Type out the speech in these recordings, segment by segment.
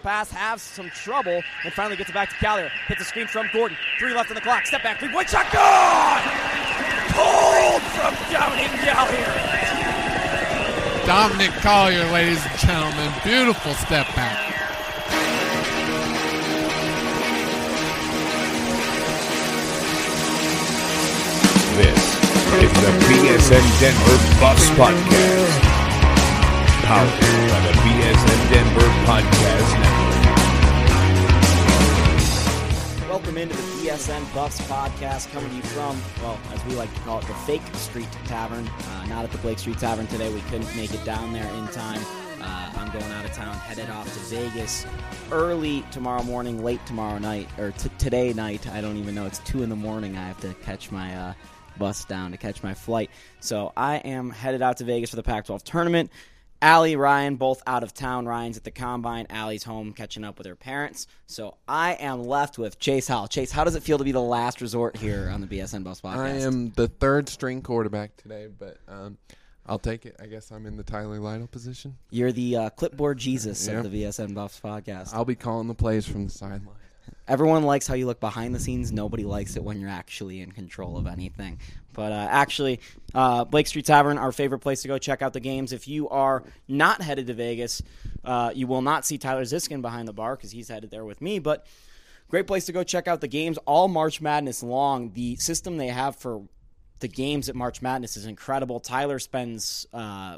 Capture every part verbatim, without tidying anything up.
pass, has some trouble, and finally gets it back to Collier. Hits a screen from Gordon. Three left on the clock. Step back, three-point shot, good! Pulled from Dominic Collier. Dominic Collier, ladies and gentlemen. Beautiful step back. This is the B S N Denver Buffs Podcast, powered by the B S N Denver Podcast Network. Welcome into the B S N Buffs Podcast, coming to you from, well, as we like to call it, the Fake Street Tavern. Uh, not at the Blake Street Tavern today. We couldn't make it down there in time. Uh, I'm going out of town, headed off to Vegas early tomorrow morning, late tomorrow night, or t- today night. I don't even know. It's two in the morning. I have to catch my uh, bus down to catch my flight. So I am headed out to Vegas for the Pac twelve tournament. Allie, Ryan, both out of town. Ryan's at the Combine. Allie's home catching up with her parents. So I am left with Chase Howell. Chase, how does it feel to be the last resort here on the B S N Buffs Podcast? I am the third string quarterback today, but um, I'll take it. I guess I'm in the Tyler Lytle position. You're the uh, clipboard Jesus Yep. of the B S N Buffs Podcast. I'll be calling the plays from the sideline. Everyone likes how you look behind the scenes. Nobody likes it when you're actually in control of anything. But uh, actually, uh, Blake Street Tavern, our favorite place to go check out the games. If you are not headed to Vegas, uh, you will not see Tyler Ziskin behind the bar because he's headed there with me. But great place to go check out the games all March Madness long. The system they have for the games at March Madness is incredible. Tyler spends uh,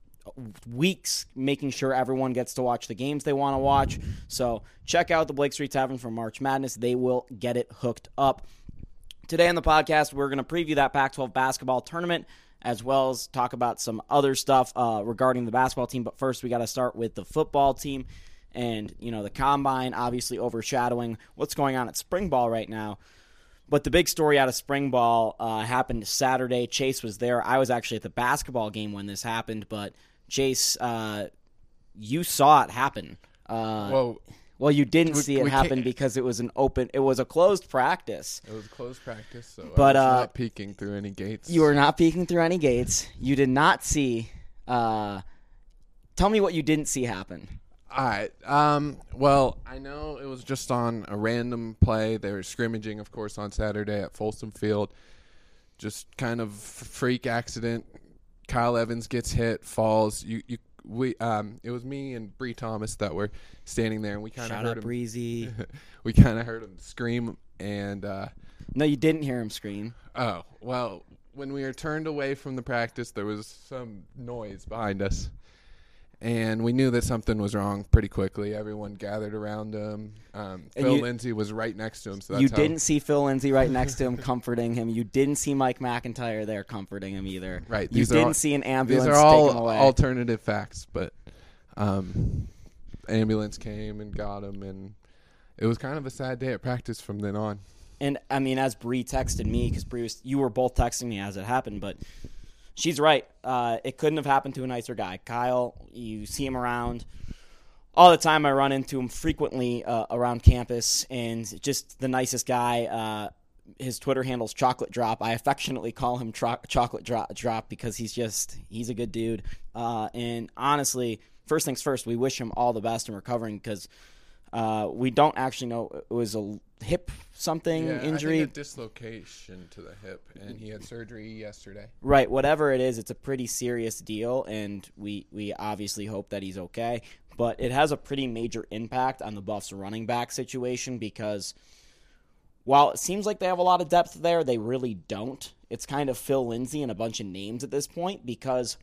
weeks making sure everyone gets to watch the games they want to watch. So check out the Blake Street Tavern for March Madness. They will get it hooked up. Today on the podcast, we're going to preview that Pac twelve basketball tournament as well as talk about some other stuff uh, regarding the basketball team. But first, we got to start with the football team. And, you know, the Combine obviously overshadowing what's going on at spring ball right now. But the big story out of spring ball uh, happened Saturday. Chase was there. I was actually at the basketball game when this happened. But, Chase, uh, you saw it happen. Uh, Well, well, you didn't we- see it we happen can't- because it was an open, it was a closed practice. it was closed practice, so But, I was uh, not peeking through any gates. You were not peeking through any gates. You did not see. Uh, tell me what you didn't see happen. All right. Um, well, I know it was just on a random play. They were scrimmaging, of course, on Saturday at Folsom Field. Just kind of freak accident. Kyle Evans gets hit, falls. You, you, we, um, it was me and Bree Thomas that were standing there, and we kind of Shout heard out him. Breezy. we kind of heard him scream, and uh, No, you didn't hear him scream. oh well. When we were turned away from the practice, there was some noise behind us. And we knew that something was wrong pretty quickly. Everyone gathered around him. Um, And Phil you- Lindsay was right next to him. So that's You how, didn't see Phil Lindsay right next to him comforting him. You didn't see Mike McIntyre there comforting him either. Right. You These are didn't all- see an These ambulance are take all him away. alternative facts, but um, ambulance came and got him, and it was kind of a sad day at practice from then on. And, I mean, as Bree texted me, because Bree was, you were both texting me as it happened, but she's right. Uh, it couldn't have happened to a nicer guy. Kyle, you see him around all the time. I run into him frequently uh, around campus, and just the nicest guy. Uh, his Twitter handle's Chocolate Drop. I affectionately call him tro- Chocolate Drop, Drop because he's just, he's a good dude. Uh, and honestly, first things first, we wish him all the best in recovering because uh, we don't actually know. It was a hip something Yeah, injury. I think a dislocation to the hip, and he had surgery yesterday. Right, whatever it is, it's a pretty serious deal, and we, we obviously hope that he's okay. But it has a pretty major impact on the Buffs running back situation because while it seems like they have a lot of depth there, they really don't. It's kind of Phil Lindsay and a bunch of names at this point because,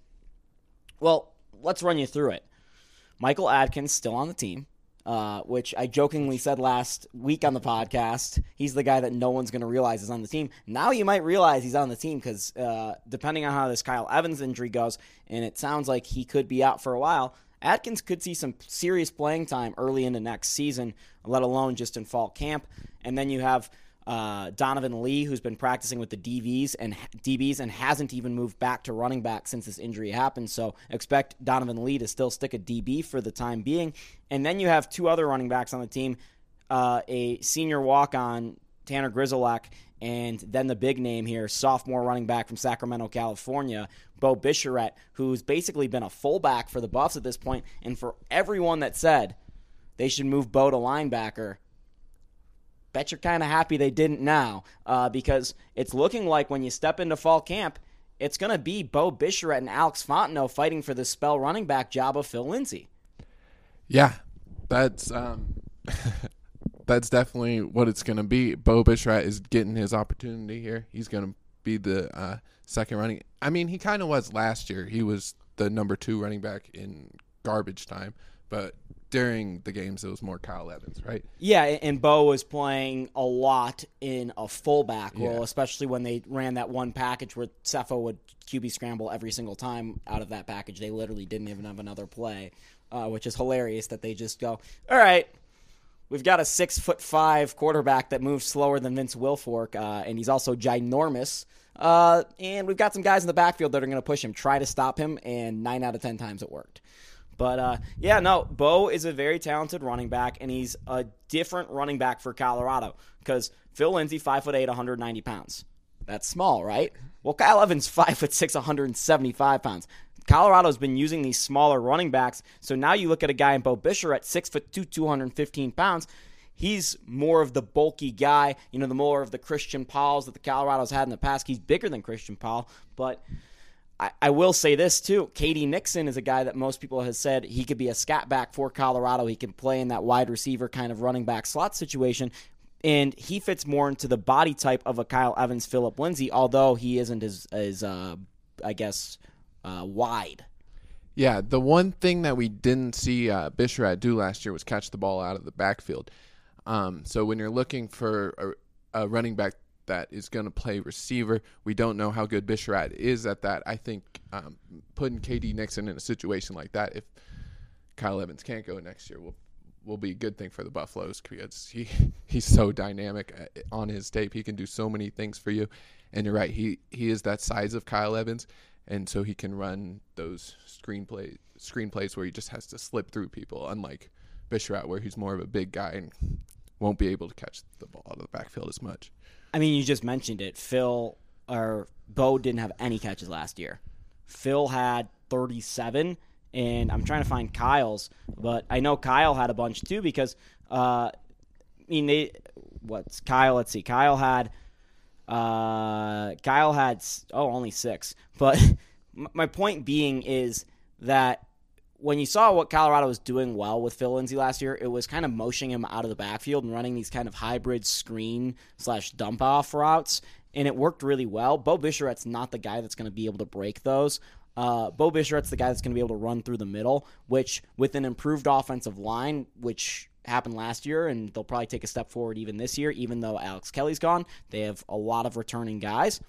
well, let's run you through it. Michael Adkins still on the team. Uh, which I jokingly said last week on the podcast. He's the guy that no one's going to realize is on the team. Now you might realize he's on the team because uh, depending on how this Kyle Evans injury goes, and it sounds like he could be out for a while, Adkins could see some serious playing time early into next season, let alone just in fall camp. And then you have uh, Donovan Lee, who's been practicing with the D Vs and D Bs and hasn't even moved back to running back since this injury happened. So expect Donovan Lee to still stick a D B for the time being. And then you have two other running backs on the team, uh, a senior walk-on, Tanner Grizzleck, and then the big name here, sophomore running back from Sacramento, California, Bo Bicheret, who's basically been a fullback for the Buffs at this point. And for everyone that said they should move Bo to linebacker. Bet you're kind of happy they didn't now, uh, because it's looking like when you step into fall camp, it's going to be Bo Bicheret and Alex Fontenot fighting for the spell running back job of Phil Lindsay. Yeah, that's um, that's definitely what it's going to be. Bo Bicheret is getting his opportunity here. He's going to be the uh, second running. I mean, he kind of was last year. He was the number two running back in garbage time, but during the games, it was more Kyle Evans, right? Yeah, and Bo was playing a lot in a fullback role, Yeah. especially when they ran that one package where Cepho would Q B scramble every single time out of that package. They literally didn't even have another play, uh, which is hilarious that they just go, all right, we've got a six foot five quarterback that moves slower than Vince Wilfork, uh, and he's also ginormous. Uh, and we've got some guys in the backfield that are going to push him, try to stop him, and nine out of ten times it worked. But, uh, yeah, no, Bo is a very talented running back, and he's a different running back for Colorado because Phil Lindsay, five foot eight, one hundred ninety pounds. That's small, right? Well, Kyle Evans, five foot six, one hundred seventy-five pounds. Colorado's been using these smaller running backs, so now you look at a guy in Bo Bicheret, six foot two, two hundred fifteen pounds. He's more of the bulky guy, you know, the more of the Christian Pauls that the Colorado's had in the past. He's bigger than Christian Paul, but I, I will say this, too. K D Nixon is a guy that most people have said he could be a scat back for Colorado. He can play in that wide receiver kind of running back slot situation, and he fits more into the body type of a Kyle Evans, Phillip Lindsay, although he isn't as, as uh, I guess, uh, wide. Yeah, the one thing that we didn't see uh, Bicheret do last year was catch the ball out of the backfield. Um, so when you're looking for a, a running back that is going to play receiver, we don't know how good Bicheret is at that. I think um, putting K D Nixon in a situation like that, if Kyle Evans can't go next year, will will be a good thing for the Buffaloes because he he's so dynamic on his tape. He can do so many things for you. And you're right, he he is that size of Kyle Evans, and so he can run those screenplay screenplays where he just has to slip through people, unlike Bicheret, where he's more of a big guy and won't be able to catch the ball out of the backfield as much. I mean, you just mentioned it. Phil or Bo didn't have any catches last year. Phil had thirty-seven, and I'm trying to find Kyle's, but I know Kyle had a bunch too because, uh, I mean, they what's Kyle? Let's see. Kyle had, uh, Kyle had oh only six. But my point being is that when you saw what Colorado was doing well with Phil Lindsay last year, it was kind of motioning him out of the backfield and running these kind of hybrid screen slash dump off routes, and it worked really well. Bo Bicheret's not the guy that's going to be able to break those. Uh, Bo Bicheret's the guy that's going to be able to run through the middle, which with an improved offensive line, which happened last year, and they'll probably take a step forward even this year, even though Alex Kelly's gone. They have a lot of returning guys.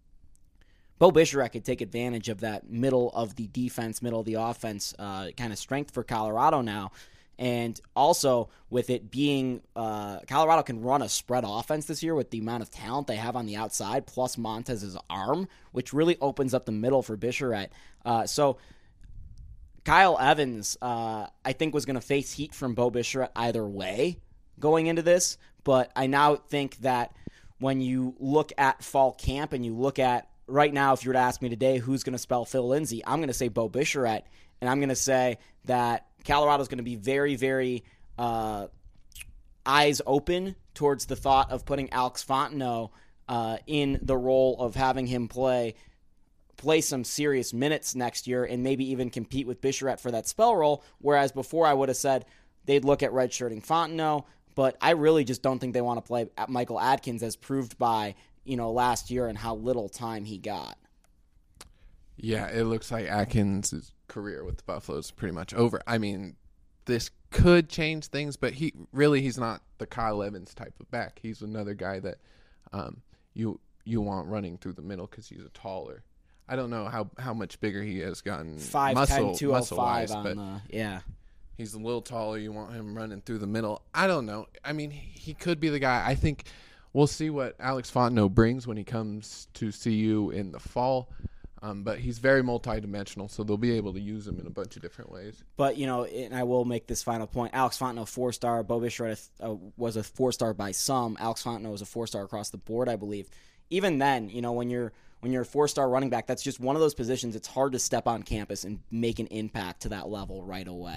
Bo Bicheret could take advantage of that middle of the defense, middle of the offense uh, kind of strength for Colorado now. And also with it being uh, Colorado can run a spread offense this year with the amount of talent they have on the outside, plus Montez's arm, which really opens up the middle for Bicheret. Uh, so Kyle Evans, uh, I think, was going to face heat from Bo Bicheret either way going into this. But I now think that when you look at fall camp and you look at right now, if you were to ask me today who's going to spell Phil Lindsay, I'm going to say Bo Bicheret, and I'm going to say that Colorado's going to be very, very uh, eyes open towards the thought of putting Alex Fontenot uh, in the role of having him play play some serious minutes next year and maybe even compete with Bicheret for that spell role, whereas before I would have said they'd look at redshirting Fontenot, but I really just don't think they want to play Michael Adkins as proved by you know, last year and how little time he got. Yeah, it looks like Atkins' career with the Buffaloes is pretty much over. I mean, this could change things, but he really he's not the Kyle Evans type of back. He's another guy that um, you you want running through the middle because he's a taller. I don't know how, how much bigger he has gotten five muscle, ten, two oh five muscle-wise, on but the, yeah. He's a little taller. You want him running through the middle. I don't know. I mean, he could be the guy. I think we'll see what Alex Fontenot brings when he comes to C U in the fall. Um, but he's very multidimensional, so they'll be able to use him in a bunch of different ways. But, you know, and I will make this final point. Alex Fontenot, four-star. Bo Bicheret uh, was a four-star by some. Alex Fontenot was a four-star across the board, I believe. Even then, you know, when you're when you're a four-star running back, that's just one of those positions. It's hard to step on campus and make an impact to that level right away.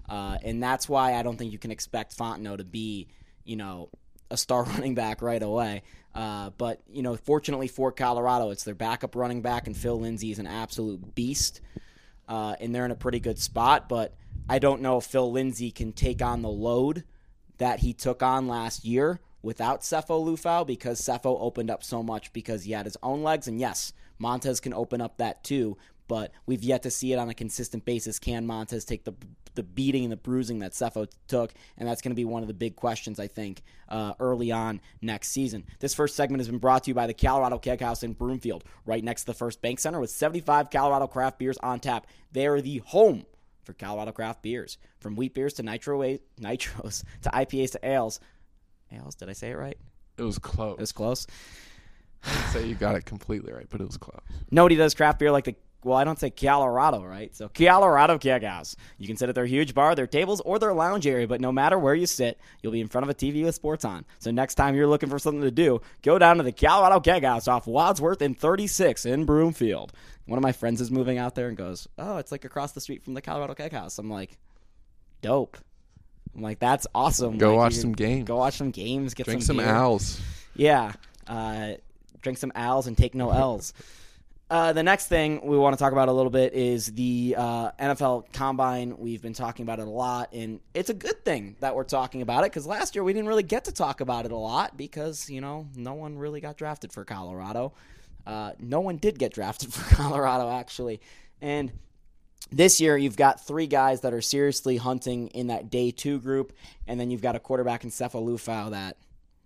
Uh, and that's why I don't think you can expect Fontenot to be, you know, a star running back right away. Uh, but, you know, fortunately for Colorado, it's their backup running back, and Phil Lindsay is an absolute beast. Uh, and they're in a pretty good spot. But I don't know if Phil Lindsay can take on the load that he took on last year without Sefo Liufau, because Sefo opened up so much because he had his own legs. And yes, Montez can open up that too, but we've yet to see it on a consistent basis. Can Montez take the the beating and the bruising that Sefo took? And that's going to be one of the big questions, I think, uh, early on next season. This first segment has been brought to you by the Colorado Keg House in Broomfield, right next to the First Bank Center, with seventy-five Colorado craft beers on tap. They are the home for Colorado craft beers. From wheat beers to nitro nitros to I P As to ales. Ales, did I say it right? It was close. It was close. I'd say you got it completely right, but it was close. Nobody does craft beer like the, well, I don't say Colorado, right? So Colorado Keg House. You can sit at their huge bar, their tables, or their lounge area, but no matter where you sit, you'll be in front of a T V with sports on. So next time you're looking for something to do, go down to the Colorado Keg House off Wadsworth and thirty-six in Broomfield. One of my friends is moving out there and goes, oh, it's like across the street from the Colorado Keg House. I'm like, dope. I'm like, that's awesome. Go like, watch some games. Go watch some games. Get Drink some, some beer. owls. Yeah. Uh, drink some owls and take no L's. Uh, the next thing we want to talk about a little bit is the uh, N F L Combine. We've been talking about it a lot, and it's a good thing that we're talking about it, because last year we didn't really get to talk about it a lot because, you know, no one really got drafted for Colorado. Uh, no one did get drafted for Colorado, actually. And this year you've got three guys that are seriously hunting in that day two group, and then you've got a quarterback in Sefo Liufau that,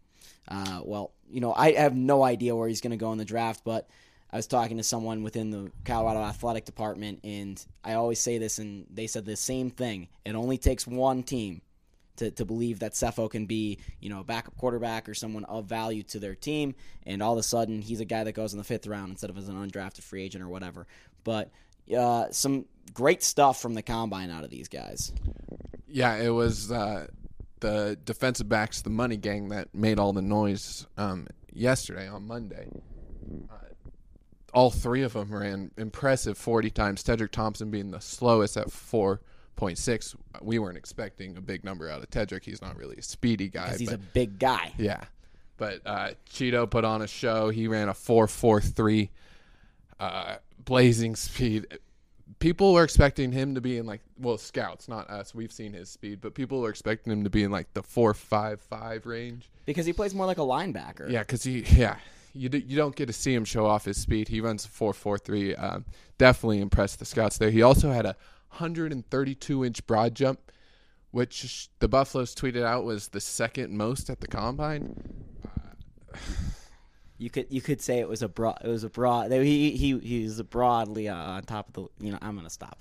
uh, well, you know, I have no idea where he's going to go in the draft, but I was talking to someone within the Colorado athletic department, and I always say this, and they said the same thing. It only takes one team to, to believe that Sefo can be, you know, a backup quarterback or someone of value to their team, and all of a sudden he's a guy that goes in the fifth round instead of as an undrafted free agent or whatever. But uh, some great stuff from the Combine out of these guys. Yeah, it was uh, the defensive backs, the money gang, that made all the noise um, yesterday on Monday. Uh, all three of them ran impressive forty times. Tedrick Thompson being the slowest at four point six. We weren't expecting a big number out of Tedrick. He's not really a speedy guy. Because he's but, a big guy. Yeah. But uh, Cheeto put on a show. He ran a four four three, uh, blazing speed. People were expecting him to be in, like, well, scouts, not us. We've seen his speed, but people were expecting him to be in, like, the four five five range. Because he plays more like a linebacker. Yeah, because he, yeah. You, do, you don't get to see him show off his speed. He runs a four four three. Um, definitely impressed the scouts there. He also had a one thirty-two inch broad jump, which the Buffaloes tweeted out was the second most at the Combine. Uh, You could you could say it was a broad. It was a broad. He he he was broadly uh, on top of the. You know, I'm gonna stop.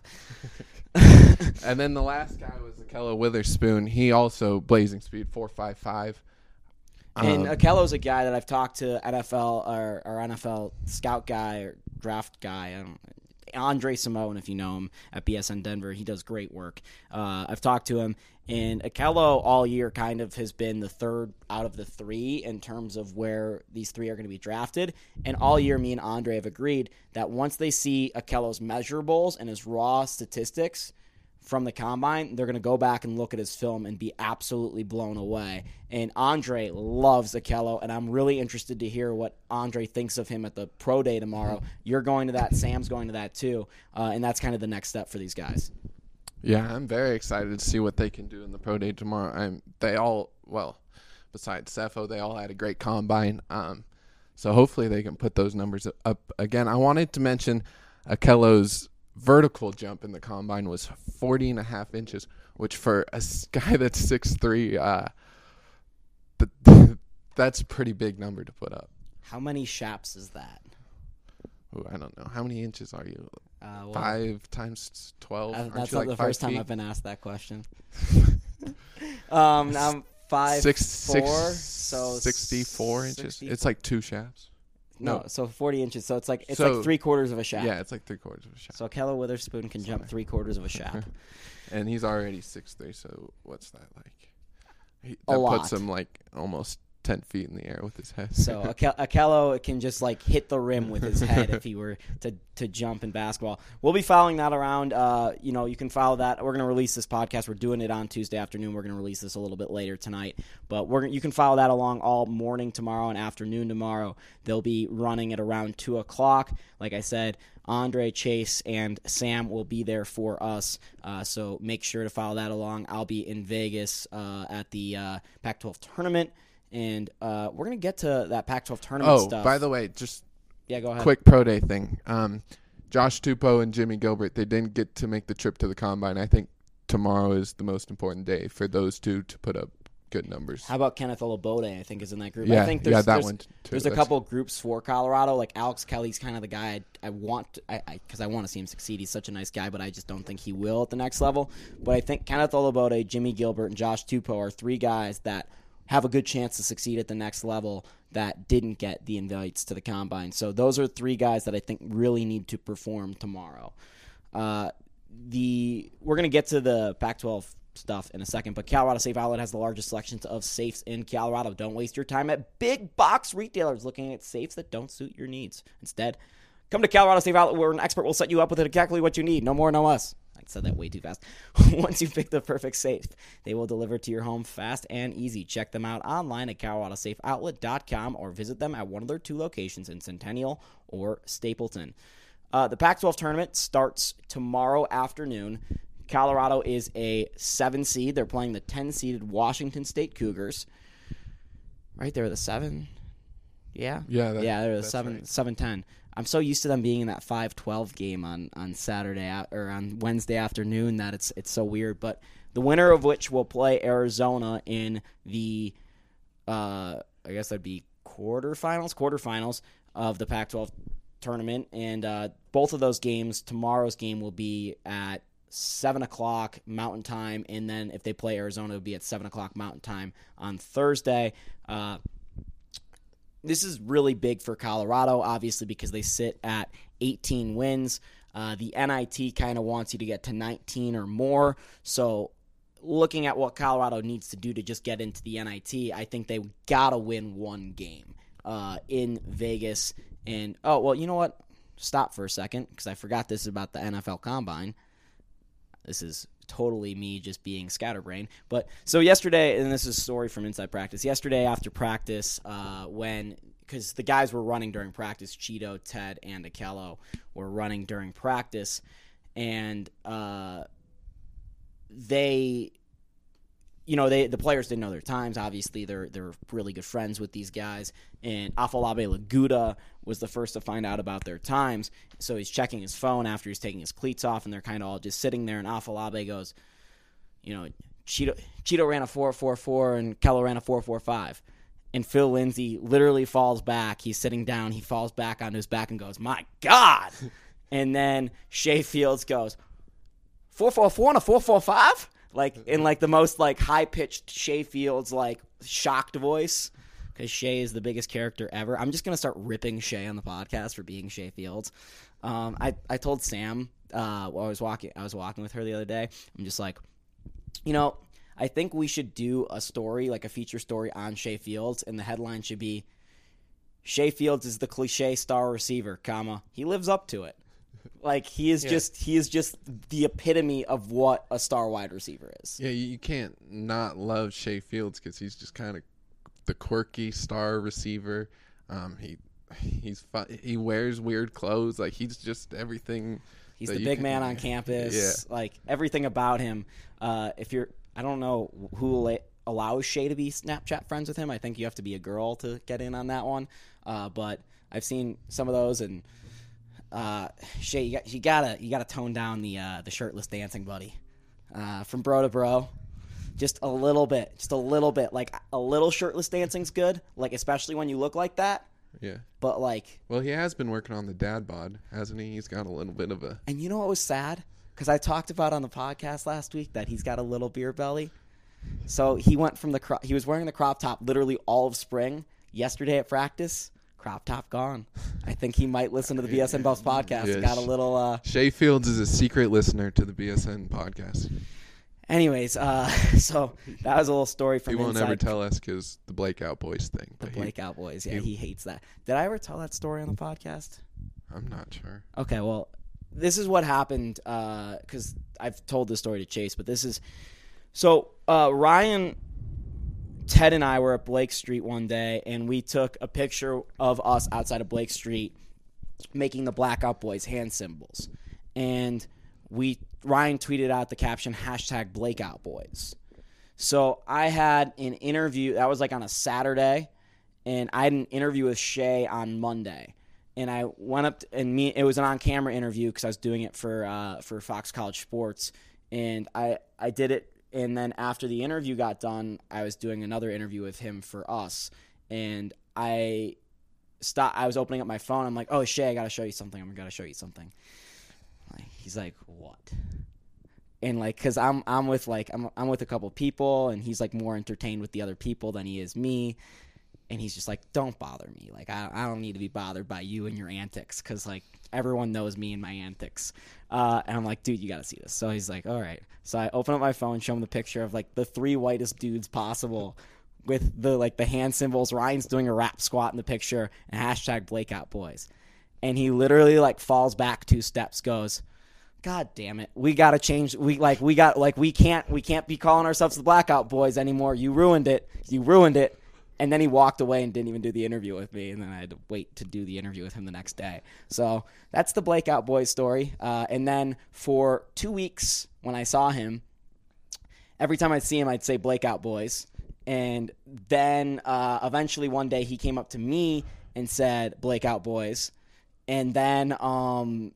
And then the last guy was Akello Witherspoon. He also blazing speed four five five. And um, Akello's a guy that I've talked to, N F L or, or N F L scout guy or draft guy. I don't. Andre Simone, if you know him, at B S N Denver, he does great work. Uh, I've talked to him, and Akello all year kind of has been the third out of the three in terms of where these three are going to be drafted. And all year, me and Andre have agreed that once they see Akello's measurables and his raw statistics from the Combine, they're going to go back and look at his film and be absolutely blown away. And Andre loves Akello, and I'm really interested to hear what Andre thinks of him at the Pro Day tomorrow. You're going to that. Sam's going to that too. Uh, and that's kind of the next step for these guys. Yeah, I'm very excited to see what they can do in the Pro Day tomorrow. I'm, they all, well, besides Sefo, they all had a great Combine. Um, so hopefully they can put those numbers up again. I wanted to mention Akello's vertical jump in the Combine was forty and a half inches, which for a guy that's six three, uh, that's a pretty big number to put up. How many shaps is that? Ooh, I don't know. How many inches are you? Uh, well, Five times twelve? Uh, Aren't that's you not like the first five time feet? I've been asked that question. um, I'm five Six, four, six, so sixty-four inches. sixty It's like two shafts. No, No. so forty inches. So it's like it's So- like three quarters of a shaft. Yeah, it's like three quarters of a shaft. So Akello Witherspoon can jump Sorry. three quarters of a shaft. And he's already six three, so what's that like? He, A that lot. puts him like almost ten feet in the air with his head. So Akel- Akello can just like hit the rim with his head if he were to, to jump in basketball. We'll be following that around. Uh, you know, you can follow that. We're going to release this podcast. We're doing it on Tuesday afternoon. We're going to release this a little bit later tonight. But we're you can follow that along all morning tomorrow and afternoon tomorrow. They'll be running at around two o'clock. Like I said, Andre, Chase, and Sam will be there for us. Uh, so make sure to follow that along. I'll be in Vegas uh, at the uh, Pac twelve tournament. And uh, we're going to get to that Pac twelve tournament oh, stuff. Oh, by the way, just yeah, go ahead. Quick pro day thing. Um, Josh Tupou and Jimmy Gilbert, they didn't get to make the trip to the Combine. I think tomorrow is the most important day for those two to put up good numbers. How about Kenneth Olabode, I think, is in that group. Yeah, I think there's, yeah, that there's, one too. There's That's a couple groups for Colorado. Like Alex Kelly's kind of the guy I, I want to, I because I, I want to see him succeed. He's such a nice guy, but I just don't think he will at the next level. But I think Kenneth Olabode, Jimmy Gilbert, and Josh Tupou are three guys that have a good chance to succeed at the next level that didn't get the invites to the Combine. So those are three guys that I think really need to perform tomorrow. Uh, the We're going to get to the Pac twelve stuff in a second, but Colorado Safe Outlet has the largest selections of safes in Colorado. Don't waste your time at big box retailers looking at safes that don't suit your needs. Instead, come to Colorado Safe Outlet where an expert will set you up with exactly what you need. No more, no less. I said that way too fast. Once you pick the perfect safe, they will deliver to your home fast and easy. Check them out online at colorado safe outlet dot com or visit them at one of their two locations in Centennial or Stapleton. Uh, the Pac twelve tournament starts tomorrow afternoon. Colorado is a seven seed. They're playing the ten-seeded Washington State Cougars. Right, they're the seven. Yeah, yeah, that, yeah, they're the that's seven, right. seven ten. I'm so used to them being in that five twelve game on, on Saturday or on Wednesday afternoon that it's it's so weird. But the winner of which will play Arizona in the, uh, I guess that'd be quarterfinals, quarterfinals of the Pac twelve tournament. And uh, both of those games, tomorrow's game will be at seven o'clock Mountain Time, and then if they play Arizona, it will be at seven o'clock Mountain Time on Thursday. Uh, this is really big for Colorado, obviously, because they sit at eighteen wins. Uh, the N I T kind of wants you to get to nineteen or more, so looking at what Colorado needs to do to just get into the N I T, I think they got to win one game uh, in Vegas. And, oh, well, you know what? Stop for a second, because I forgot this is about the N F L Combine. This is totally me just being scatterbrained. But so yesterday, and this is a story from Inside Practice, yesterday after practice, uh, when, because the guys were running during practice, Cheeto, Ted, and Akello were running during practice, and uh, they, you know, they the players didn't know their times. Obviously, they're they're really good friends with these guys. And Afolabi Laguda was the first to find out about their times. So he's checking his phone after he's taking his cleats off, and they're kind of all just sitting there. And Afolabi goes, you know, Cheeto, Cheeto ran a four four four, and Kello ran a four four five. And Phil Lindsay literally falls back. He's sitting down. He falls back onto his back and goes, my God. And then Shea Fields goes, four four four and a four four five? Like, in, like, the most, like, high-pitched Shea Fields, like, shocked voice, because Shea is the biggest character ever. I'm just going to start ripping Shea on the podcast for being Shea Fields. Um, I, I told Sam uh, while I was walking I was walking with her the other day, I'm just like, you know, I think we should do a story, like a feature story on Shea Fields, and the headline should be, Shea Fields is the cliche star receiver, comma, he lives up to it. Like, he is yeah. just he is just the epitome of what a star wide receiver is. Yeah, you can't not love Shea Fields because he's just kind of the quirky star receiver. Um, he he's fun, he wears weird clothes. Like, he's just everything. He's the big can, man on campus. Yeah. Like, everything about him. Uh, if you're, I don't know who allows Shea to be Snapchat friends with him. I think you have to be a girl to get in on that one. Uh, but I've seen some of those, and Uh, Shea, you, got, you gotta you gotta tone down the uh, the shirtless dancing, buddy. Uh, from bro to bro, just a little bit, just a little bit. Like, a little shirtless dancing's good. Like, especially when you look like that. Yeah. But like, well, he has been working on the dad bod, hasn't he? He's got a little bit of a. And you know what was sad? Because I talked about on the podcast last week that he's got a little beer belly. So he went from the cro- he was wearing the crop top literally all of spring. Yesterday at practice, crop top gone. I think he might listen to the B S N Buffs podcast. Yeah, got a little. Uh, Shea Fields is a secret listener to the B S N podcast. Anyways, uh, so that was a little story from He won't inside ever tell us because the Blakeout Boys thing. the but he- Blakeout Boys. Yeah, he- he hates that. Did I ever tell that story on the podcast? I'm not sure. Okay, well, this is what happened because I've told this story to Chase, but this is so uh, Ryan, Ted, and I were at Blake Street one day, and we took a picture of us outside of Blake Street making the Blackout Boys hand symbols, and we Ryan tweeted out the caption hashtag Blakeout Boys. So I had an interview that was like on a Saturday, and I had an interview with Shay on Monday. And I went up to, and me. It was an on-camera interview because I was doing it for uh, for Fox College Sports, and I I did it. And then after the interview got done, I was doing another interview with him for us, and I stopped. I was opening up my phone. I'm like, "Oh, Shay, I gotta show you something. I'm gonna show you something." Like, he's like, "What?" And like, cause I'm I'm with like I'm I'm with a couple people, and he's like more entertained with the other people than he is me. And he's just like, don't bother me. Like, I, I don't need to be bothered by you and your antics because, like, everyone knows me and my antics. Uh, and I'm like, dude, you got to see this. So he's like, all right. So I open up my phone, show him the picture of, like, the three whitest dudes possible with the, like, the hand symbols. Ryan's doing a rap squat in the picture and hashtag Blakeout Boys. And he literally, like, falls back two steps, goes, God damn it. We got to change. We, like, we got, like, we can't, we can't be calling ourselves the Blackout Boys anymore. You ruined it. You ruined it. And then he walked away and didn't even do the interview with me. And then I had to wait to do the interview with him the next day. So that's the Blakeout Boys story. Uh, and then for two weeks when I saw him, every time I'd see him, I'd say Blakeout Boys. And then uh, eventually one day he came up to me and said Blakeout Boys. And then um,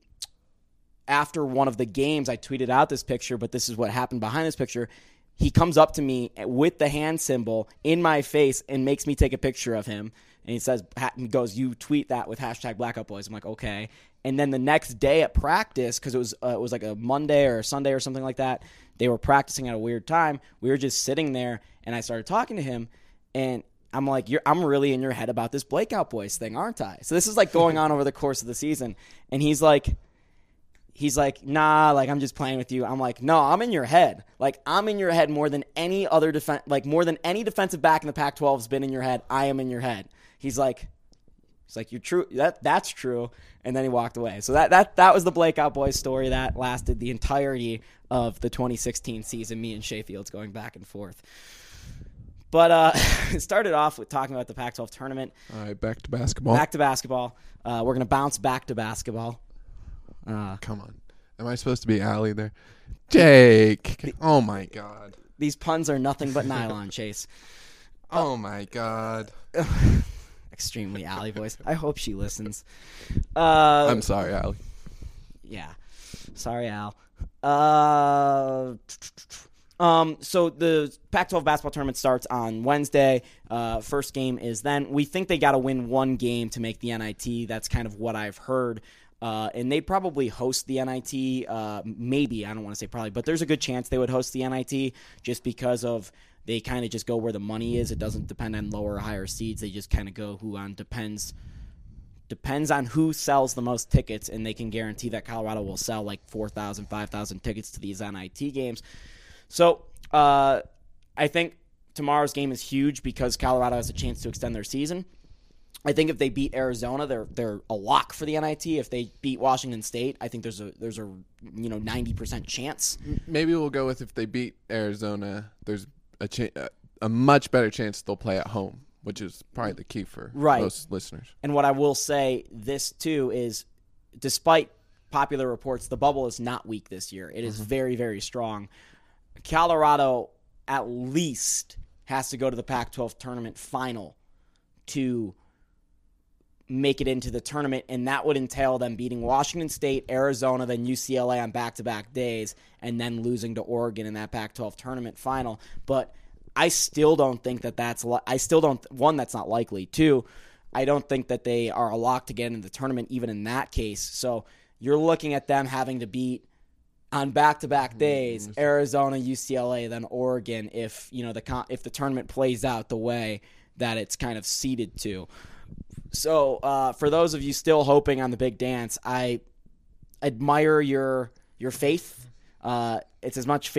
after one of the games, I tweeted out this picture, but this is what happened behind this picture. He comes up to me with the hand symbol in my face and makes me take a picture of him. And he says, he goes, you tweet that with hashtag Blackout Boys. I'm like, okay. And then the next day at practice, because it was uh, it was like a Monday or a Sunday or something like that, they were practicing at a weird time. We were just sitting there, and I started talking to him, and I'm like, You're, I'm really in your head about this Blakeout Boys thing, aren't I? So this is like going on over the course of the season. And he's like, He's like, nah, like, I'm just playing with you. I'm like, no, I'm in your head. Like, I'm in your head more than any other defense, like, more than any defensive back in the Pac twelve has been in your head. I am in your head. He's like, he's like, you're true. That That's true. And then he walked away. So that that that was the Blakeout Boys story that lasted the entirety of the twenty sixteen season, me and Shay Fields going back and forth. But uh, it started off with talking about the Pac twelve tournament. All right, back to basketball. Back to basketball. Uh, we're going to bounce back to basketball. Uh, Come on. Am I supposed to be Allie there? Jake. Oh, my God. These puns are nothing but nylon, Chase. Oh, my God. Extremely Allie voice. I hope she listens. Uh, I'm sorry, Allie. Yeah. Sorry, Al. Uh, um, so the Pac twelve basketball tournament starts on Wednesday. Uh, first game is then. We think they got to win one game to make the N I T. That's kind of what I've heard. Uh, and they probably host the N I T, uh, maybe, I don't want to say probably, but there's a good chance they would host the N I T just because of they kind of just go where the money is. It doesn't depend on lower or higher seeds. They just kind of go who on depends depends on who sells the most tickets, and they can guarantee that Colorado will sell like four thousand, five thousand tickets to these N I T games. So uh, I think tomorrow's game is huge because Colorado has a chance to extend their season. I think if they beat Arizona, they're they're a lock for the N I T. If they beat Washington State, I think there's a there's a you know ninety percent chance. Maybe we'll go with if they beat Arizona, there's a cha- a much better chance they'll play at home, which is probably the key for right. most listeners. And what I will say this too is, despite popular reports, the bubble is not weak this year. It is mm-hmm. very very strong. Colorado at least has to go to the Pac twelve tournament final to make it into the tournament, and that would entail them beating Washington State, Arizona, then U C L A on back-to-back days, and then losing to Oregon in that Pac twelve tournament final. But I still don't think that that's li- – I still don't – one, that's not likely. Two, I don't think that they are a lock to get into the tournament even in that case. So you're looking at them having to beat on back-to-back days Arizona, U C L A, then Oregon if, you know, the con- if the tournament plays out the way that it's kind of seeded to. So uh, for those of you still hoping on the big dance, I admire your your faith. Uh, it's as much faith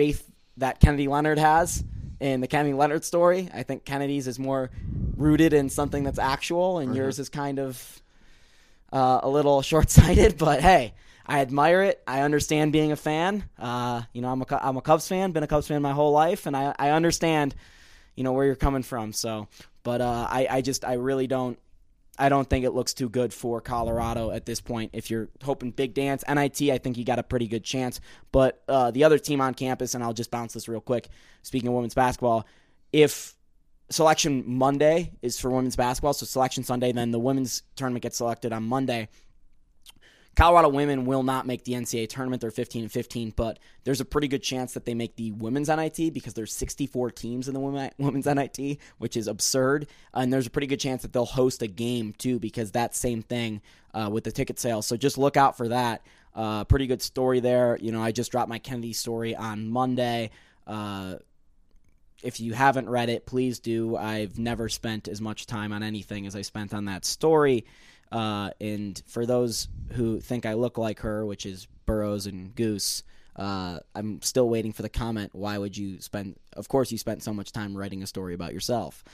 that Kennedy Leonard has in the Kennedy Leonard story. I think Kennedy's is more rooted in something that's actual, and mm-hmm. yours is kind of uh, a little short-sighted. But hey, I admire it. I understand being a fan. Uh, you know, I'm a I'm a Cubs fan. Been a Cubs fan my whole life, and I I understand, you know, where you're coming from. So, but uh, I I just I really don't. I don't think it looks too good for Colorado at this point. If you're hoping big dance, N I T, I think you got a pretty good chance. But uh, the other team on campus, and I'll just bounce this real quick, speaking of women's basketball, if Selection Monday is for women's basketball, so Selection Sunday, then the women's tournament gets selected on Monday. Colorado women will not make the N C double A tournament. They're fifteen and fifteen, but there's a pretty good chance that they make the women's N I T because there's sixty-four teams in the women's N I T, which is absurd. And there's a pretty good chance that they'll host a game too because that same thing uh, with the ticket sales. So just look out for that. Uh, pretty good story there. You know, I just dropped my Kennedy story on Monday. Uh, if you haven't read it, please do. I've never spent as much time on anything as I spent on that story. Uh, and for those who think I look like her, which is Burrows and Goose, uh, I'm still waiting for the comment, why would you spend, of course you spent so much time writing a story about yourself.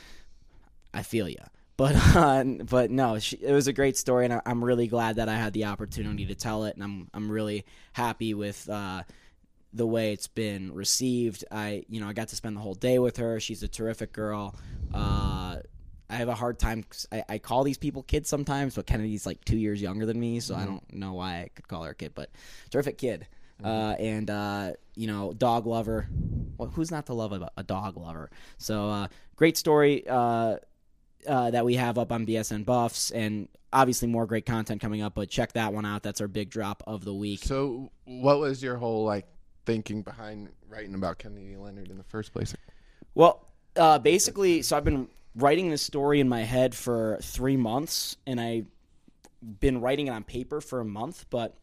I feel ya. But uh, but no, she, it was a great story, and I, I'm really glad that I had the opportunity to tell it, and I'm I'm really happy with uh, the way it's been received. I you know I got to spend the whole day with her. She's a terrific girl. Uh, I have a hard time. I, I call these people kids sometimes, but Kennedy's like two years younger than me, so mm-hmm. I don't know why I could call her a kid. But terrific kid, mm-hmm. uh, and uh, you know, dog lover. Well, who's not to love a, a dog lover? So uh, great story uh, uh, that we have up on B S N Buffs, and obviously more great content coming up. But check that one out. That's our big drop of the week. So, what was your whole like thinking behind writing about Kennedy Leonard in the first place? Well, uh, basically, so I've been writing this story in my head for three months, and I've been writing it on paper for a month. But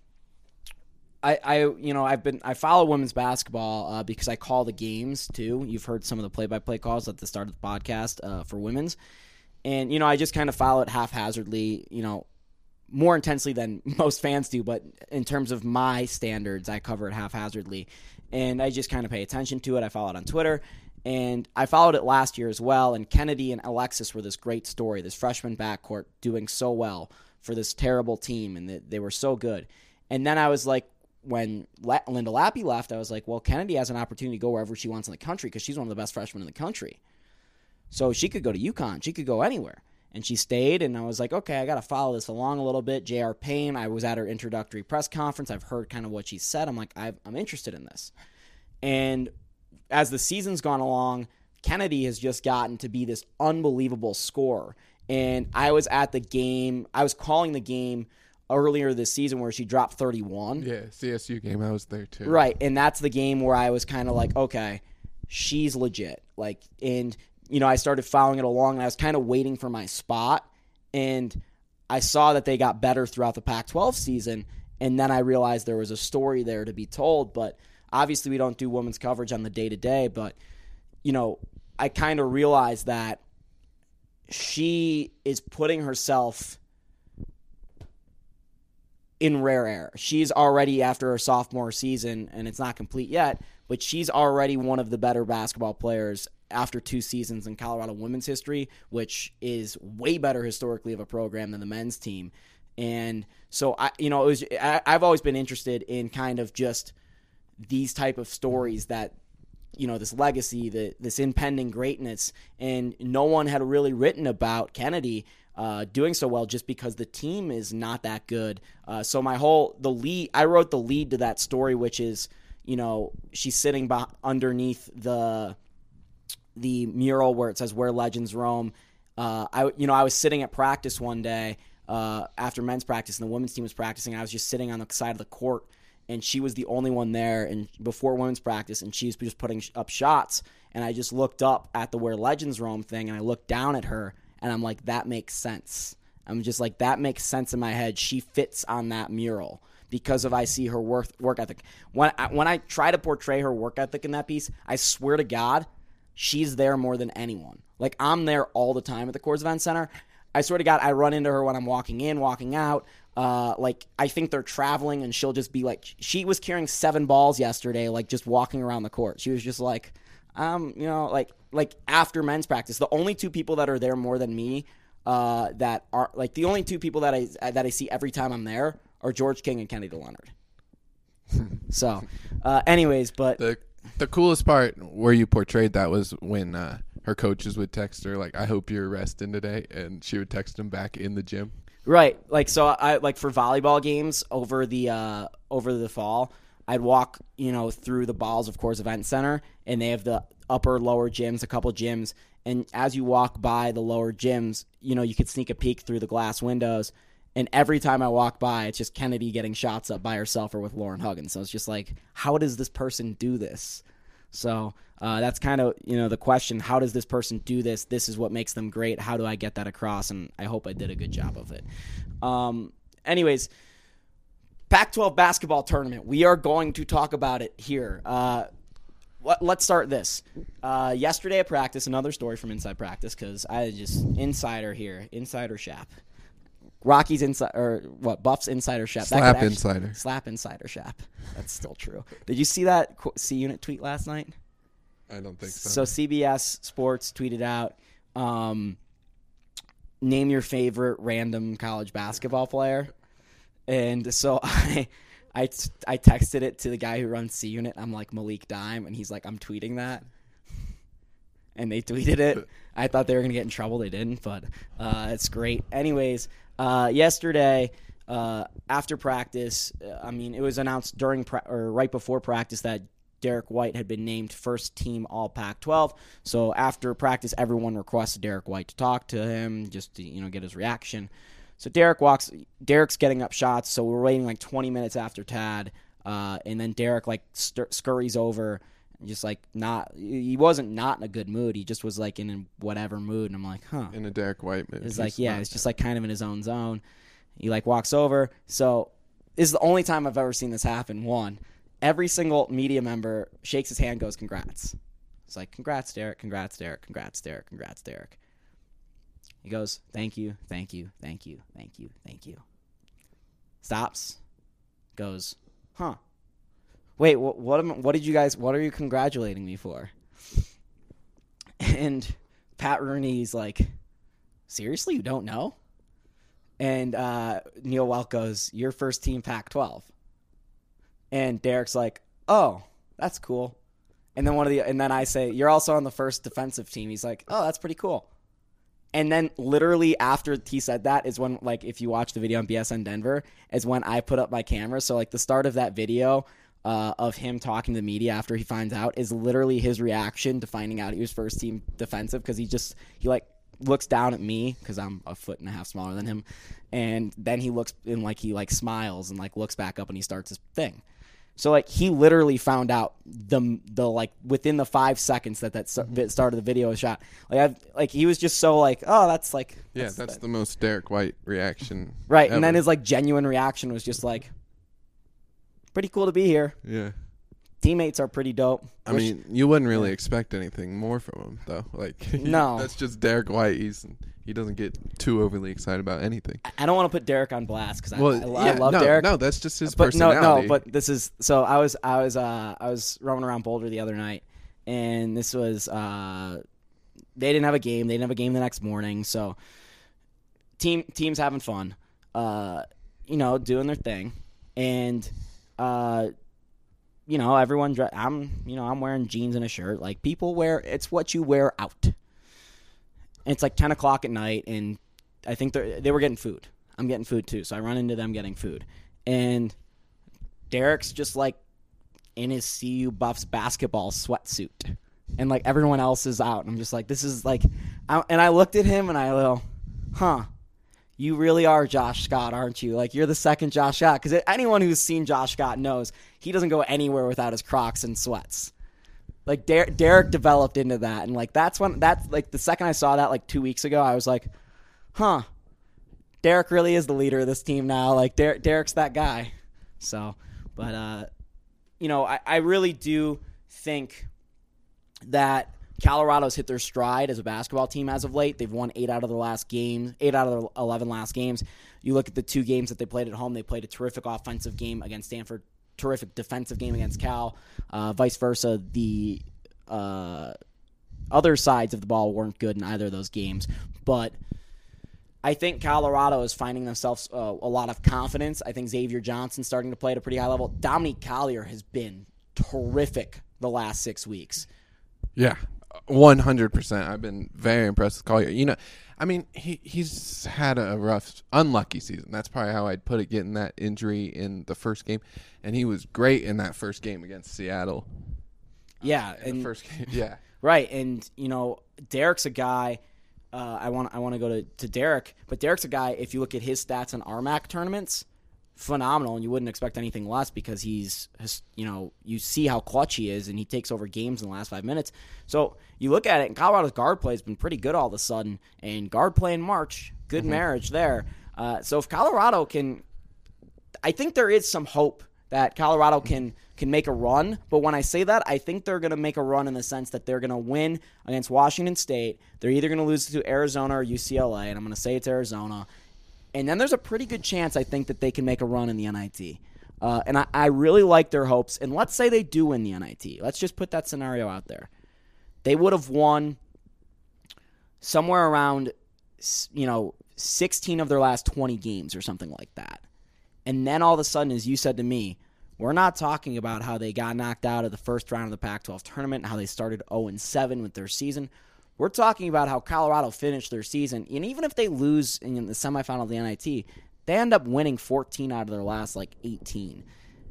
I, I you know, I've been I follow women's basketball uh, because I call the games too. You've heard some of the play-by-play calls at the start of the podcast uh, for women's, and you know, I just kind of follow it haphazardly. You know, more intensely than most fans do, but in terms of my standards, I cover it haphazardly, and I just kind of pay attention to it. I follow it on Twitter. And I followed it last year as well, and Kennedy and Alexis were this great story, this freshman backcourt doing so well for this terrible team, and they, they were so good. And then I was like, when La- Linda Lappy left, I was like, well, Kennedy has an opportunity to go wherever she wants in the country because she's one of the best freshmen in the country. So she could go to UConn. She could go anywhere. And she stayed, and I was like, okay, I got to follow this along a little bit. J R. Payne, I was at her introductory press conference. I've heard kind of what she said. I'm like, I've, I'm interested in this. And as the season's gone along, Kennedy has just gotten to be this unbelievable scorer. And I was at the game, I was calling the game earlier this season where she dropped thirty-one. Yeah, C S U game, I was there too. Right, and that's the game where I was kind of like, okay, she's legit. Like, and, you know, I started following it along, and I was kind of waiting for my spot. And I saw that they got better throughout the Pac twelve season, and then I realized there was a story there to be told. But obviously, we don't do women's coverage on the day-to-day, but, you know, I kind of realized that she is putting herself in rare air. She's already, after her sophomore season, and it's not complete yet, but she's already one of the better basketball players after two seasons in Colorado women's history, which is way better historically of a program than the men's team. And so, I, you know, it was, I, I've always been interested in kind of just these type of stories that, you know, this legacy, the, this impending greatness, and no one had really written about Kennedy uh, doing so well just because the team is not that good. Uh, so my whole, the lead, I wrote the lead to that story, which is, you know, she's sitting by, underneath the the mural where it says "Where Legends Roam." Uh, I, you know, I was sitting at practice one day uh, after men's practice, and the women's team was practicing. I was just sitting on the side of the court, and she was the only one there and before women's practice, and she was just putting up shots. And I just looked up at the Where Legends Roam thing, and I looked down at her, and I'm like, that makes sense. I'm just like, that makes sense in my head. She fits on that mural because of I see her work, work ethic. When I, when I try to portray her work ethic in that piece, I swear to God, she's there more than anyone. Like, I'm there all the time at the Coors Event Center. I swear to God, I run into her when I'm walking in, walking out. Uh, like, I think they're traveling, and she'll just be like, she was carrying seven balls yesterday, like, just walking around the court. She was just like, um, you know, like, like after men's practice, the only two people that are there more than me, uh, that are, like, the only two people that I, that I see every time I'm there are George King and Kennedy Leonard. So, uh, anyways, but The the coolest part where you portrayed that was when uh, her coaches would text her like, "I hope you're resting today," and she would text them back in the gym. right, like so, I like for volleyball games over the uh, over the fall, I'd walk, you know, through the Balls, of course, Event Center, and they have the upper lower gyms, a couple gyms, and as you walk by the lower gyms, you know, you could sneak a peek through the glass windows. And every time I walk by, it's just Kennedy getting shots up by herself or with Lauren Huggins. So it's just like, how does this person do this? So uh, that's kind of, you know, the question. How does this person do this? This is what makes them great. How do I get that across? And I hope I did a good job of it. Um, anyways, Pac twelve basketball tournament. We are going to talk about it here. Uh, let, let's start this. Uh, yesterday at practice, another story from Inside Practice, because I just, insider here, insider Shap. Rocky's inside, or what? Buff's insider Shap. Slap actually, insider. Slap insider Shap. That's still true. Did you see that C Unit tweet last night? I don't think so. So C B S Sports tweeted out, um, name your favorite random college basketball player. And so I, I, I texted it to the guy who runs C Unit. I'm like, Malik Dime, and he's like, I'm tweeting that. And they tweeted it. I thought they were going to get in trouble. They didn't, but uh, it's great. Anyways, uh, yesterday uh, after practice, uh, I mean, it was announced during pra- or right before practice that Derek White had been named first team All Pac twelve. So after practice, everyone requested Derek White to talk to him, just to, you know, get his reaction. So Derek walks. Derek's getting up shots. So we're waiting like twenty minutes after Tad, uh, and then Derek like stir- scurries over. Just like not, he wasn't not in a good mood. He just was like in a whatever mood, and I'm like, huh. In a Derek White mood. It's like, yeah, it's just like kind of in his own zone. He like walks over. So this is the only time I've ever seen this happen. One, every single media member shakes his hand, goes, congrats. It's like, congrats, Derek, congrats, Derek, congrats, Derek, congrats, Derek. He goes, thank you, thank you, thank you, thank you, thank you. Stops, goes, huh. Wait, what, what, am, what did you guys, what are you congratulating me for? And Pat Rooney's like, seriously, you don't know? And uh, Neil Welk goes, you're first team Pac twelve. And Derek's like, oh, that's cool. And then one of the, and then I say, you're also on the first defensive team. He's like, oh, that's pretty cool. And then literally after he said that is when, like, if you watch the video on B S N Denver, is when I put up my camera. So, like, the start of that video uh, of him talking to the media after he finds out is literally his reaction to finding out he was first team defensive, because he just, he, like, looks down at me because I'm a foot and a half smaller than him. And then he looks and, like, he, like, smiles and, like, looks back up and he starts his thing. So, like, he literally found out the, the like, within the five seconds that that start of the video was shot. Like, I've, like he was just so, like, oh, that's, like. Yeah, that's, that's the, the most Derek White reaction. Right, ever. And then his, like, genuine reaction was just, like, pretty cool to be here. Yeah. Teammates are pretty dope. I Wish, mean, you wouldn't really yeah. expect anything more from him, though. Like, no. That's just Derek White. He's He doesn't get too overly excited about anything. I don't want to put Derek on blast because well, I, I, yeah, I love no, Derek. No, that's just his but personality. No, no, but this is so. I was, I was, uh, I was roaming around Boulder the other night, and this was. Uh, they didn't have a game. They didn't have a game the next morning, so team teams having fun. Uh, you know, doing their thing, and uh, you know, everyone. I'm, you know, I'm wearing jeans and a shirt. Like people wear. It's what you wear out. And it's like ten o'clock at night, and I think they they were getting food. I'm getting food too, so I run into them getting food. And Derek's just like in his C U Buffs basketball sweatsuit, and like everyone else is out. And I'm just like, this is like, I, and I looked at him and I go, huh, you really are Josh Scott, aren't you? Like, you're the second Josh Scott. Because anyone who's seen Josh Scott knows he doesn't go anywhere without his Crocs and sweats. Like, Der- Derek developed into that. And, like, that's when, that's, like, the second I saw that, like, two weeks ago, I was like, huh, Derek really is the leader of this team now. Like, Der- Derek's that guy. So, but, uh, you know, I, I really do think that Colorado's hit their stride as a basketball team as of late. They've won eight out of the last games, eight out of the eleven last games. You look at the two games that they played at home. They played a terrific offensive game against Stanford, terrific defensive game against Cal. Uh, vice versa, the uh, other sides of the ball weren't good in either of those games. But I think Colorado is finding themselves uh, a lot of confidence. I think Xavier Johnson's starting to play at a pretty high level. Dominique Collier has been terrific the last six weeks. Yeah, one hundred percent. I've been very impressed with Collier. You know, I mean, he he's had a rough, unlucky season. That's probably how I'd put it, getting that injury in the first game. And he was great in that first game against Seattle. Yeah. Uh, in and, the first game, yeah. Right, and, you know, Derek's a guy uh, – I want I want to go to, to Derek, but Derek's a guy, if you look at his stats in R M A C tournaments, phenomenal, and you wouldn't expect anything less because he's, you know, you see how clutch he is, and he takes over games in the last five minutes. So you look at it, and Colorado's guard play has been pretty good all of a sudden, and guard play in March, good mm-hmm. marriage there. Uh, so if Colorado can – I think there is some hope that Colorado can can make a run, but when I say that, I think they're going to make a run in the sense that they're going to win against Washington State. They're either going to lose to Arizona or U C L A, and I'm going to say it's Arizona. And then there's a pretty good chance, I think, that they can make a run in the N I T. Uh, and I, I really like their hopes. And let's say they do win the N I T. Let's just put that scenario out there. They would have won somewhere around, you know, sixteen of their last twenty games or something like that. And then all of a sudden, as you said to me, we're not talking about how they got knocked out of the first round of the Pac twelve tournament and how they started oh and seven with their season. We're talking about how Colorado finished their season, and even if they lose in the semifinal of the N I T, they end up winning fourteen out of their last, like, eighteen.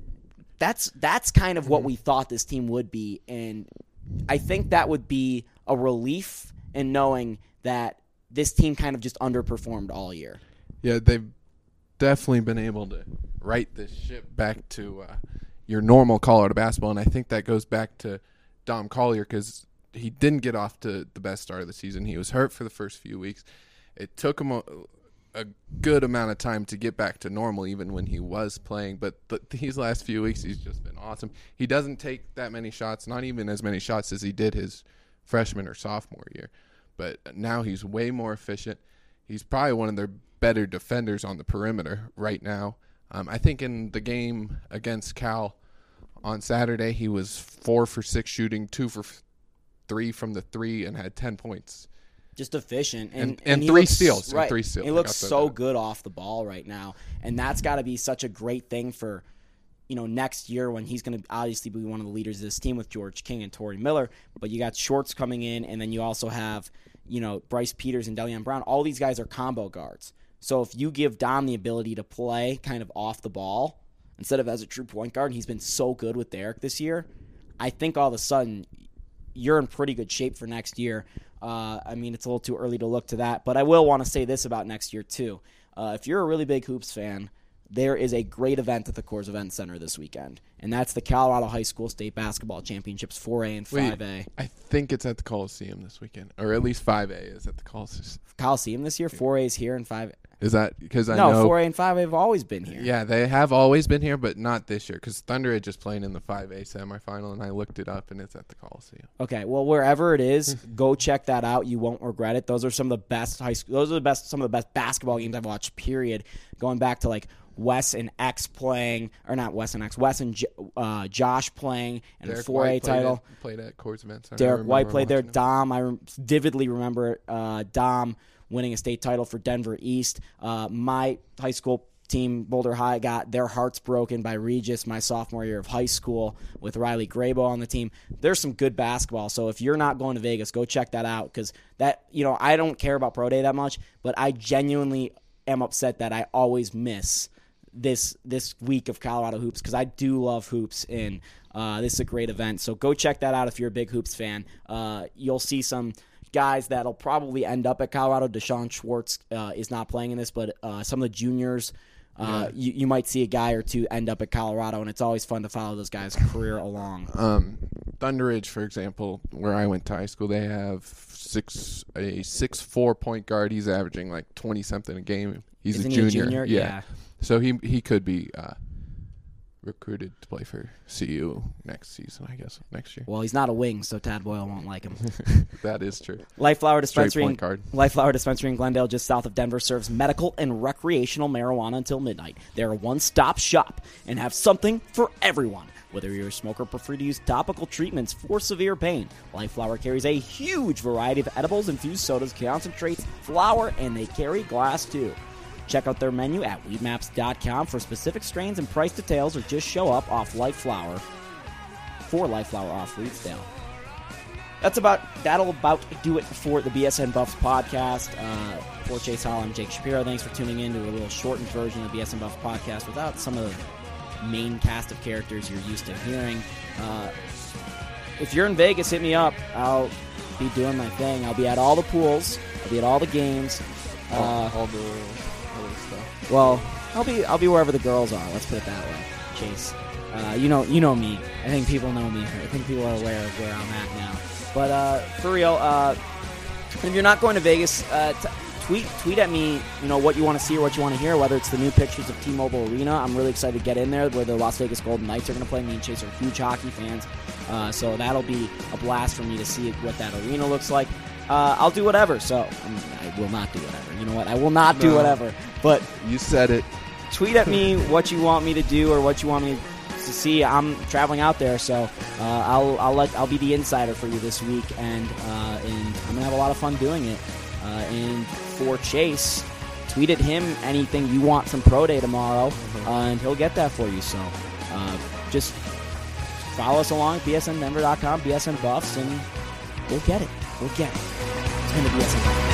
That's that's kind of what we thought this team would be, and I think that would be a relief in knowing that this team kind of just underperformed all year. Yeah, they've definitely been able to right this ship back to uh, your normal Colorado basketball, and I think that goes back to Dom Collier because he didn't get off to the best start of the season. He was hurt for the first few weeks. It took him a, a good amount of time to get back to normal even when he was playing, but th- these last few weeks he's just been awesome. He doesn't take that many shots, not even as many shots as he did his freshman or sophomore year, but now he's way more efficient. He's probably one of their better defenders on the perimeter right now. Um, I think in the game against Cal on Saturday, he was four for six shooting, two for f- three from the three, and had ten points. Just efficient. And, and, and, and three looks, steals. Right. And three steals. He looks so that. good off the ball right now. And that's got to be such a great thing for, you know, next year when he's going to obviously be one of the leaders of this team with George King and Torrey Miller. But you got Shorts coming in, and then you also have, you know, Bryce Peters and Delion Brown. All these guys are combo guards. So if you give Dom the ability to play kind of off the ball instead of as a true point guard, and he's been so good with Derek this year, I think all of a sudden you're in pretty good shape for next year. Uh, I mean, it's a little too early to look to that, but I will want to say this about next year too. Uh, if you're a really big hoops fan, there is a great event at the Coors Event Center this weekend, and that's the Colorado High School State Basketball Championships four A and five A. Wait, I think it's at the Coliseum this weekend, or at least five A is at the Coliseum. Coliseum this year? four A is here and five A. Is that because I no, know? No, four A and five A have always been here. Yeah, they have always been here, but not this year because Thunder Edge is playing in the five A semifinal, and I looked it up, and it's at the Coliseum. Okay, well, wherever it is, go check that out. You won't regret it. Those are some of the best high school. Those are the best. Some of the best basketball games I've watched. Period. Going back to like Wes and X playing, or not Wes and X. Wes and J- uh, Josh playing, and Derek a four A White title. Played at, played at Coors Event Center. Derek White played there. Him. Dom, I re- vividly remember uh, Dom winning a state title for Denver East. Uh, my high school team, Boulder High, got their hearts broken by Regis my sophomore year of high school with Riley Grabo on the team. There's some good basketball, so if you're not going to Vegas, go check that out because that, you know, I don't care about Pro Day that much, but I genuinely am upset that I always miss this this week of Colorado hoops because I do love hoops, and uh, this is a great event. So go check that out if you're a big hoops fan. Uh, you'll see some guys that'll probably end up at Colorado. Deshaun Schwartz uh, is not playing in this, but uh, some of the juniors, uh, yeah. you, you might see a guy or two end up at Colorado, and it's always fun to follow those guys' career along. Um, Thunder Ridge, for example, where I went to high school, they have six a six four point guard. He's averaging like twenty something a game. He's Isn't a junior. He a junior? Yeah. yeah. So he he could be uh, recruited to play for C U next season, I guess, next year. Well, he's not a wing, so Tad Boyle won't like him. That is true. Life Flower Straight Dispensary, point in, guard. Life Flower Dispensary in Glendale, just south of Denver, serves medical and recreational marijuana until midnight. They're a one-stop shop and have something for everyone. Whether you're a smoker or prefer to use topical treatments for severe pain, Life Flower carries a huge variety of edibles, infused sodas, concentrates, flower, and they carry glass too. Check out their menu at weed maps dot com for specific strains and price details, or just show up off Life Flower for Life Flower off Reedsdale. That's about that'll about do it for the B S N Buffs podcast. Uh, for Chase Hall, I'm Jake Shapiro. Thanks for tuning in to a little shortened version of the B S N Buffs podcast without some of the main cast of characters you're used to hearing. Uh, if you're in Vegas, hit me up. I'll be doing my thing. I'll be at all the pools. I'll be at all the games. All, Uh, all the other stuff. Well, I'll be I'll be wherever the girls are. Let's put it that way. Chase, uh, you know you know me. I think people know me. I think people are aware of where I'm at now. But uh, for real, uh, if you're not going to Vegas, uh, t- tweet tweet at me. You know what you want to see or what you want to hear. Whether it's the new pictures of T-Mobile Arena, I'm really excited to get in there. Where the Las Vegas Golden Knights are going to play. Me and Chase are huge hockey fans, uh, so that'll be a blast for me to see what that arena looks like. Uh, I'll do whatever. So I, mean, I will not do whatever. You know what? I will not do No. whatever. But You said it. tweet at me what you want me to do or what you want me to see. I'm traveling out there, so uh, I'll I'll let I'll be the insider for you this week, and uh, and I'm gonna have a lot of fun doing it. Uh, and for Chase, tweet at him anything you want from Pro Day tomorrow, uh, and he'll get that for you. So uh, just follow us along at B S N Denver dot com, B S N Buffs, and we'll get it. We'll get it. It's been the B S N Buffs.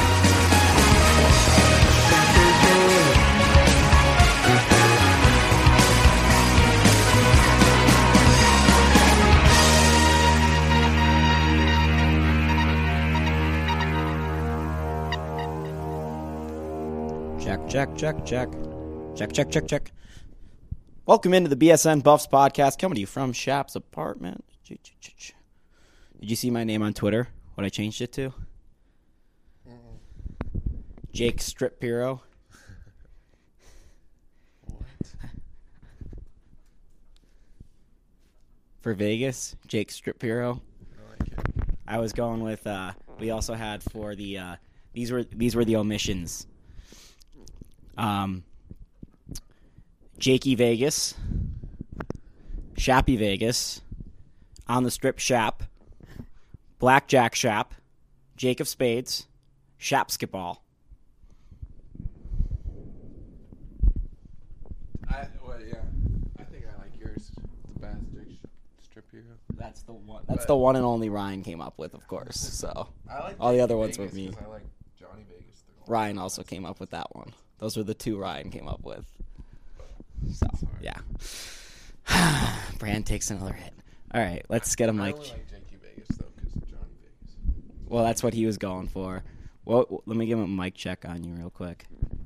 Check, check, check, check. Check, check, check, check. Welcome into the B S N Buffs podcast, coming to you from Shap's apartment. Did you see my name on Twitter? What I changed it to? Jake Stripiro. What? For Vegas, Jake Stripiro. I like it. I was going with. Uh, we also had for the. Uh, these were these were the omissions. Um, Jakey Vegas, Shappy Vegas, On the Strip Shap, Blackjack Shap, Jake of Spades, Shapskiball. I, well, yeah. I think I like yours the best, Jake Strip Hero. That's the one. That's But- the one and only Ryan came up with, of course. So I like all the Jake other ones Vegas were me. 'cause I like Johnny Vegas. the whole Ryan time. also came up with that one. Those were the two Ryan came up with. So Sorry. yeah, Brand takes another hit. All right, let's get a I mic. only like Jakey Vegas though, because Johnny Vegas. Well, that's what he was going for. Well, let me give him a mic check on you real quick.